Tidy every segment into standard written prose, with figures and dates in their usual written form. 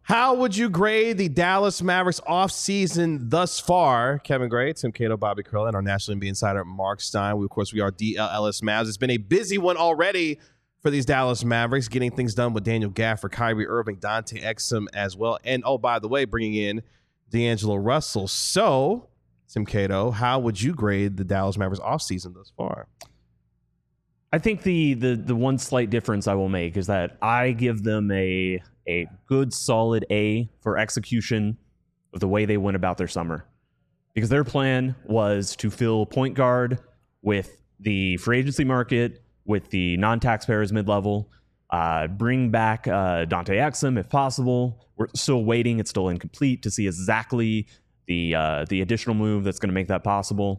How would you grade the Dallas Mavericks offseason thus far? Kevin Gray, Tim Cato, Bobby Curl, and our National NBA insider, Mark Stein. Of course, we are DLLS Mavs. It's been a busy one already for these Dallas Mavericks, getting things done with Daniel Gafford, Kyrie Irving, Dante Exum as well. And, oh, by the way, bringing in D'Angelo Russell. So, Tim Cato, how would you grade the Dallas Mavericks offseason thus far? I think the one slight difference I will make is that I give them a good solid A for execution of the way they went about their summer. Because their plan was to fill point guard with the free agency market, with the non-taxpayers mid-level, bring back Dante Exum if possible. We're still waiting. It's still incomplete to see exactly the additional move that's going to make that possible.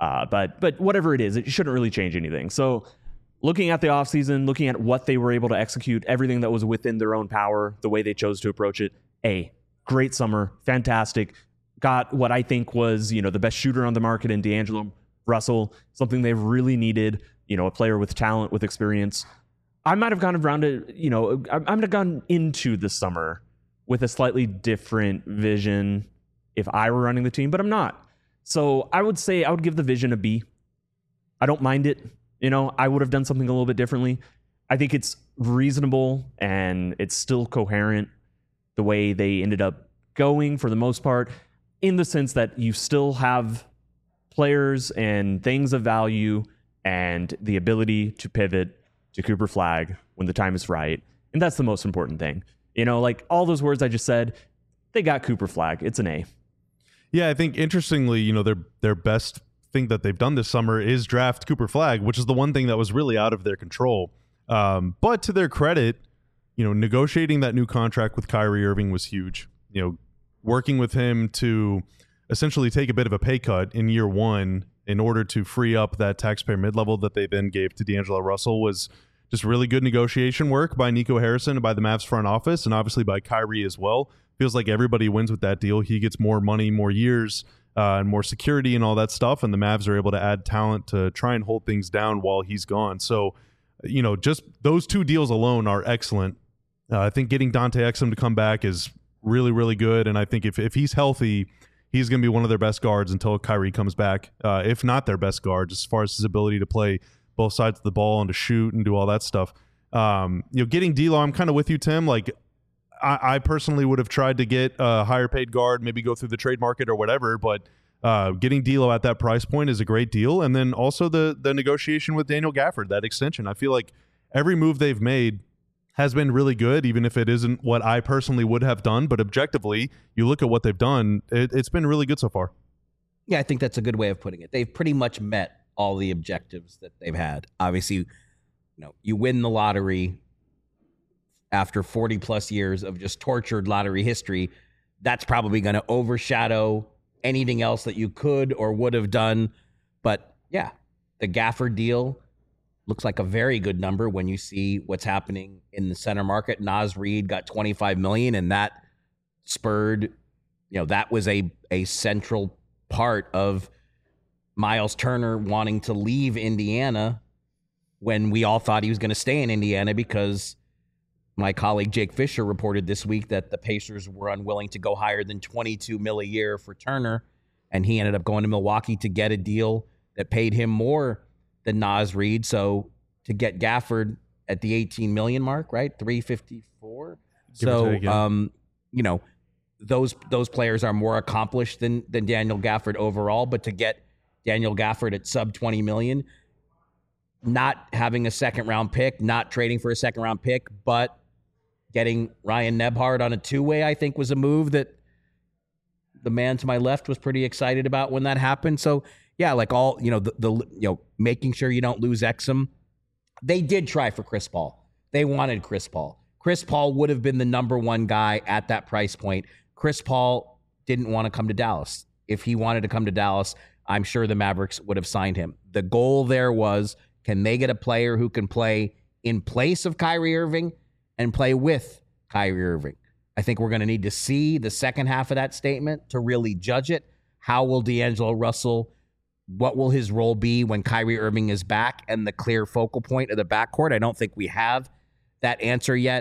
But whatever it is, it shouldn't really change anything. So looking at the offseason, looking at what they were able to execute, everything that was within their own power, the way they chose to approach it, great summer, fantastic. Got what I think was, the best shooter on the market in D'Angelo Russell, something they've really needed, a player with talent, with experience. I might have gone around it, I might have gone into the summer with a slightly different vision if I were running the team, but I'm not. So I would say I would give the vision a B. I don't mind it. I would have done something a little bit differently. I think it's reasonable and it's still coherent the way they ended up going for the most part, in the sense that you still have players and things of value and the ability to pivot to Cooper Flagg when the time is right. And that's the most important thing. Like all those words I just said, they got Cooper Flagg. It's an A. Yeah, I think interestingly, their best thing that they've done this summer is draft Cooper Flagg, which is the one thing that was really out of their control. But to their credit, negotiating that new contract with Kyrie Irving was huge. Working with him to essentially take a bit of a pay cut in year one in order to free up that taxpayer mid-level that they then gave to D'Angelo Russell was just really good negotiation work by Nico Harrison and by the Mavs front office, and obviously by Kyrie as well. Feels like everybody wins with that deal. He gets more money, more years, and more security and all that stuff, and the Mavs are able to add talent to try and hold things down while he's gone. So, just those two deals alone are excellent. I think getting Dante Exum to come back is really, really good, and I think if he's healthy, he's going to be one of their best guards until Kyrie comes back, if not their best guard, as far as his ability to play both sides of the ball and to shoot and do all that stuff. Getting D'Lo, I'm kind of with you, Tim. Like, I personally would have tried to get a higher paid guard, maybe go through the trade market or whatever, but getting D'Lo at that price point is a great deal. And then also the negotiation with Daniel Gafford, that extension. I feel like every move they've made has been really good, even if it isn't what I personally would have done. But objectively, you look at what they've done, it's been really good so far. Yeah, I think that's a good way of putting it. They've pretty much met all the objectives that they've had. Obviously, you win the lottery after 40 plus years of just tortured lottery history. That's probably going to overshadow anything else that you could or would have done. But yeah, the Gafford deal looks like a very good number when you see what's happening in the center market. Naz Reid got $25 million, and that spurred, that was a central part of Miles Turner wanting to leave Indiana when we all thought he was going to stay in Indiana, because my colleague Jake Fisher reported this week that the Pacers were unwilling to go higher than $22 million a year for Turner, and he ended up going to Milwaukee to get a deal that paid him more than Naz Reid. So to get Gafford at the $18 million mark, right, $354. So those players are more accomplished than Daniel Gafford overall, but to get Daniel Gafford at sub $20 million, not having a second round pick, not trading for a second round pick, but getting Ryan Nebhard on a two-way, I think, was a move that the man to my left was pretty excited about when that happened. So yeah, like all, making sure you don't lose Exum. They did try for Chris Paul. They wanted Chris Paul. Chris Paul would have been the number one guy at that price point. Chris Paul didn't want to come to Dallas. If he wanted to come to Dallas, I'm sure the Mavericks would have signed him. The goal there was, can they get a player who can play in place of Kyrie Irving and play with Kyrie Irving? I think we're going to need to see the second half of that statement to really judge it. How will D'Angelo Russell, what will his role be when Kyrie Irving is back and the clear focal point of the backcourt? I don't think we have that answer yet,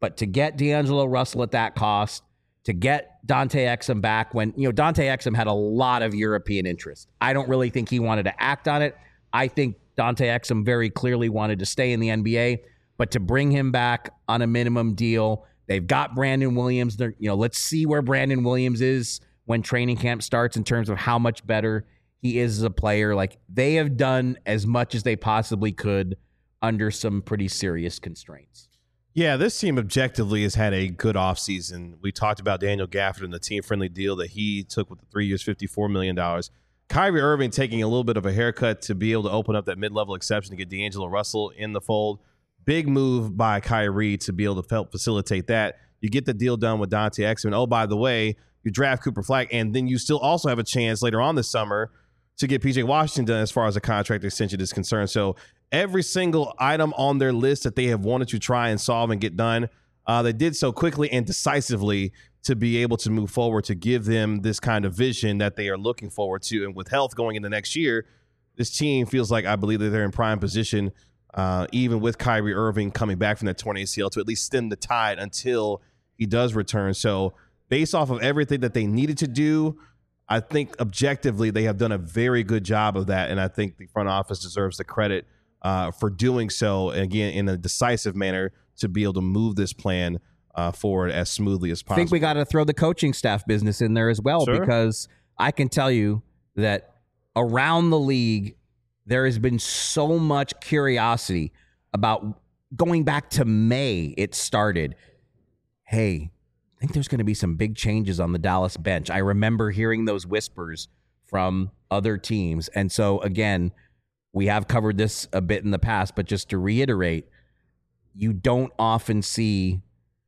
But to get D'Angelo Russell at that cost, to get Dante Exum back when, Dante Exum had a lot of European interest. I don't really think he wanted to act on it. I think Dante Exum very clearly wanted to stay in the NBA, but to bring him back on a minimum deal, they've got Brandon Williams. Let's see where Brandon Williams is when training camp starts in terms of how much better he is as a player. Like, they have done as much as they possibly could under some pretty serious constraints. Yeah, this team objectively has had a good offseason. We talked about Daniel Gafford and the team-friendly deal that he took with the 3 years, $54 million. Kyrie Irving taking a little bit of a haircut to be able to open up that mid-level exception to get D'Angelo Russell in the fold. Big move by Kyrie to be able to help facilitate that. You get the deal done with Dante Exum. Oh, by the way, you draft Cooper Flagg, and then you still also have a chance later on this summer to get PJ Washington done as far as a contract extension is concerned. So every single item on their list that they have wanted to try and solve and get done, they did so quickly and decisively to be able to move forward, to give them this kind of vision that they are looking forward to. And with health going into next year, this team feels like, I believe that they're in prime position, even with Kyrie Irving coming back from that torn ACL, to at least stem the tide until he does return. So based off of everything that they needed to do, I think objectively they have done a very good job of that. And I think the front office deserves the credit for doing so, again, in a decisive manner, to be able to move this plan forward as smoothly as possible. I think we got to throw the coaching staff business in there as well, Sure. Because I can tell you that around the league, there has been so much curiosity about going back to May. It started, hey, I think there's going to be some big changes on the Dallas bench. I remember hearing those whispers from other teams. And so, again, we have covered this a bit in the past, but just to reiterate, you don't often see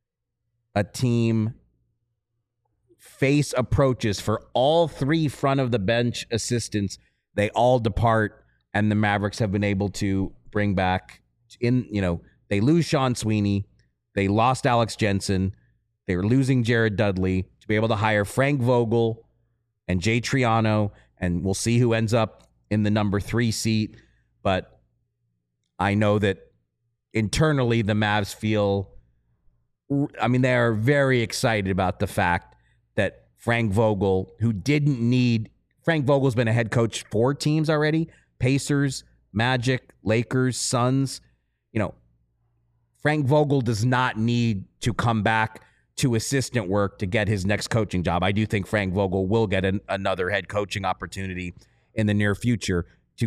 a team face approaches for all three front of the bench assistants. They all depart, and the Mavericks have been able to bring back they lose Sean Sweeney. They lost Alex Jensen. They were losing Jared Dudley, to be able to hire Frank Vogel and Jay Triano, and we'll see who ends up in the number 3 seat. But I know that internally the Mavs feel, they are very excited about the fact that Frank Vogel's been a head coach for teams already, Pacers, Magic, Lakers, Suns. Frank Vogel does not need to come back to assistant work to get his next coaching job. I do think Frank Vogel will get another head coaching opportunity in the near future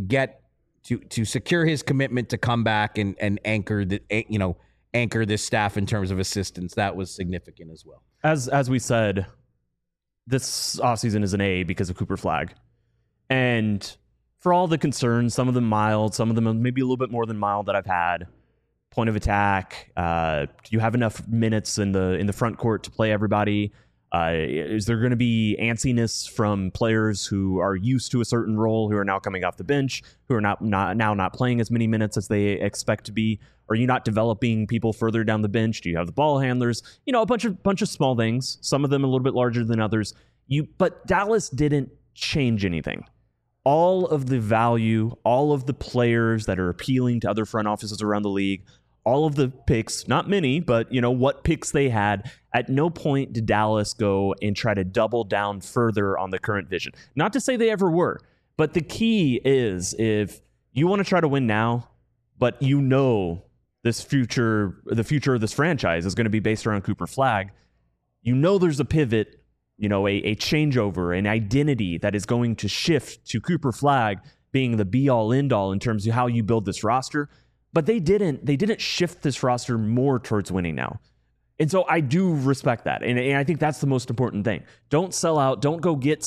to secure his commitment to come back and anchor this staff in terms of assistants. That was significant as well. As we said, this offseason is an A because of Cooper Flagg. And for all the concerns, some of them mild, some of them maybe a little bit more than mild that I've had. Point of attack. Do you have enough minutes in the front court to play everybody? Is there going to be antsiness from players who are used to a certain role, who are now coming off the bench, who are not playing as many minutes as they expect to be? Are you not developing people further down the bench? Do you have the ball handlers? A bunch of small things. Some of them a little bit larger than others. But Dallas didn't change anything. All of the value, all of the players that are appealing to other front offices around the league, all of the picks, not many, but what picks they had, at no point did Dallas go and try to double down further on the current vision. Not to say they ever were, but the key is, if you want to try to win now, but the future of this franchise is going to be based around Cooper Flagg, there's a pivot, a changeover, an identity that is going to shift to Cooper Flagg being the be-all, end-all in terms of how you build this roster. But they didn't shift this roster more towards winning now. And so I do respect that. And I think that's the most important thing. Don't sell out. Don't go get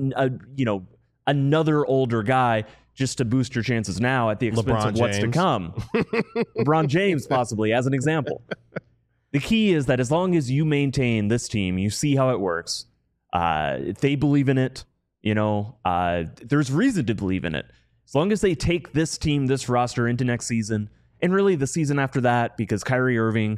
another older guy just to boost your chances now at the expense of what's to come. LeBron James, possibly, as an example. The key is that as long as you maintain this team, you see how it works. If they believe in it, there's reason to believe in it. As long as they take this team, this roster into next season, and really the season after that, because Kyrie Irving,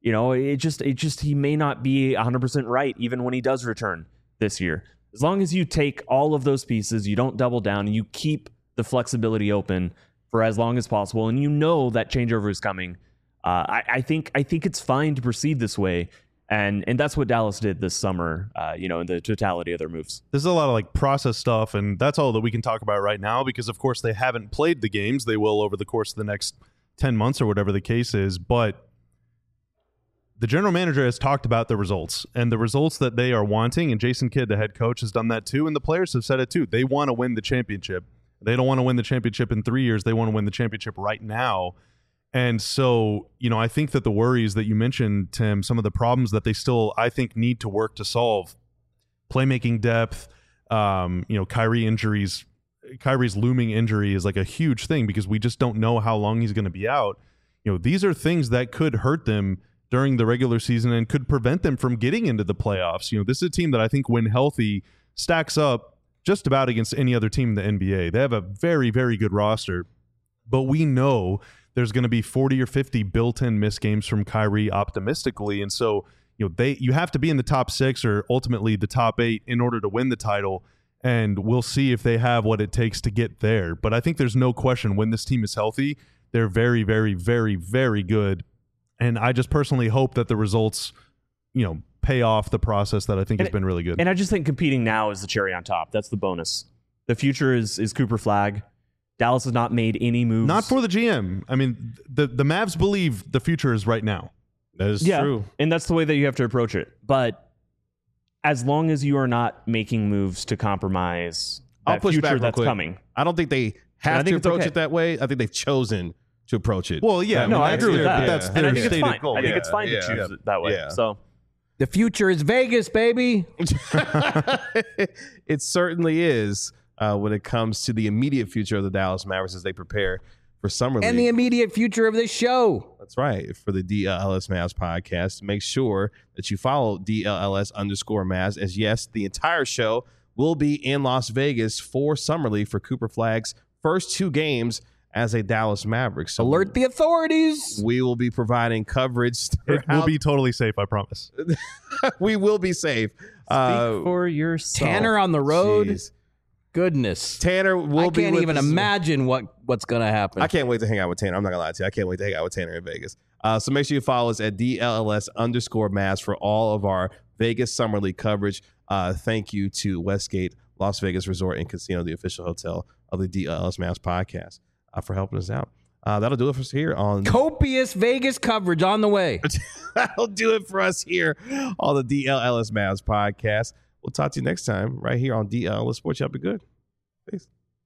he may not be 100% right even when he does return this year. As long as you take all of those pieces, you don't double down, and you keep the flexibility open for as long as possible, and that changeover is coming, I think it's fine to proceed this way. And that's what Dallas did this summer, in the totality of their moves. There's a lot of like process stuff, and that's all that we can talk about right now because, of course, they haven't played the games. They will over the course of the next 10 months or whatever the case is. But the general manager has talked about the results and the results that they are wanting, and Jason Kidd, the head coach, has done that too, and the players have said it too. They want to win the championship. They don't want to win the championship in 3 years. They want to win the championship right now. And so, I think that the worries that you mentioned, Tim, some of the problems that they still, I think, need to work to solve, playmaking depth, Kyrie's looming injury is like a huge thing because we just don't know how long he's going to be out. These are things that could hurt them during the regular season and could prevent them from getting into the playoffs. This is a team that I think when healthy stacks up just about against any other team in the NBA. They have a very, very good roster, but we know there's going to be 40 or 50 built-in missed games from Kyrie optimistically. And so, you have to be in the top 6 or ultimately the top 8 in order to win the title. And we'll see if they have what it takes to get there. But I think there's no question when this team is healthy, they're very, very, very, very good. And I just personally hope that the results, pay off the process that I think has been really good. And I just think competing now is the cherry on top. That's the bonus. The future is Cooper Flagg. Dallas has not made any moves. Not for the GM. I mean, the Mavs believe the future is right now. That is true. And that's the way that you have to approach it. But as long as you are not making moves to compromise that future that's coming. I don't think they have to approach it that way. I think they've chosen to approach it. Well, yeah. I agree with that. But that's and I their think it's stated fine. goal. I think it's fine to choose it that way. Yeah. So The future is Vegas, baby. It certainly is when it comes to the immediate future of the Dallas Mavericks as they prepare for Summer League. And the immediate future of this show. That's right. For the DLLS Mavs podcast, make sure that you follow DLLS_Mavs as yes, the entire show will be in Las Vegas for Summer League for Cooper Flagg's first 2 games as a Dallas Maverick. So alert the authorities. We will be providing coverage. It will be totally safe, I promise. We will be safe. Speak for yourself. Tanner on the road. Geez. Goodness. Tanner will be. I can't even imagine what's going to happen. I can't wait to hang out with Tanner. I'm not going to lie to you. I can't wait to hang out with Tanner in Vegas. So make sure you follow us at DLLS_Mavs for all of our Vegas Summer League coverage. Thank you to Westgate Las Vegas Resort and Casino, the official hotel of the DLLS Mavs podcast, for helping us out. That'll do it for us here on copious Vegas coverage on the way. That'll do it for us here on the DLLS Mavs podcast. We'll talk to you next time right here on DLLS Sports. Y'all be good. Peace.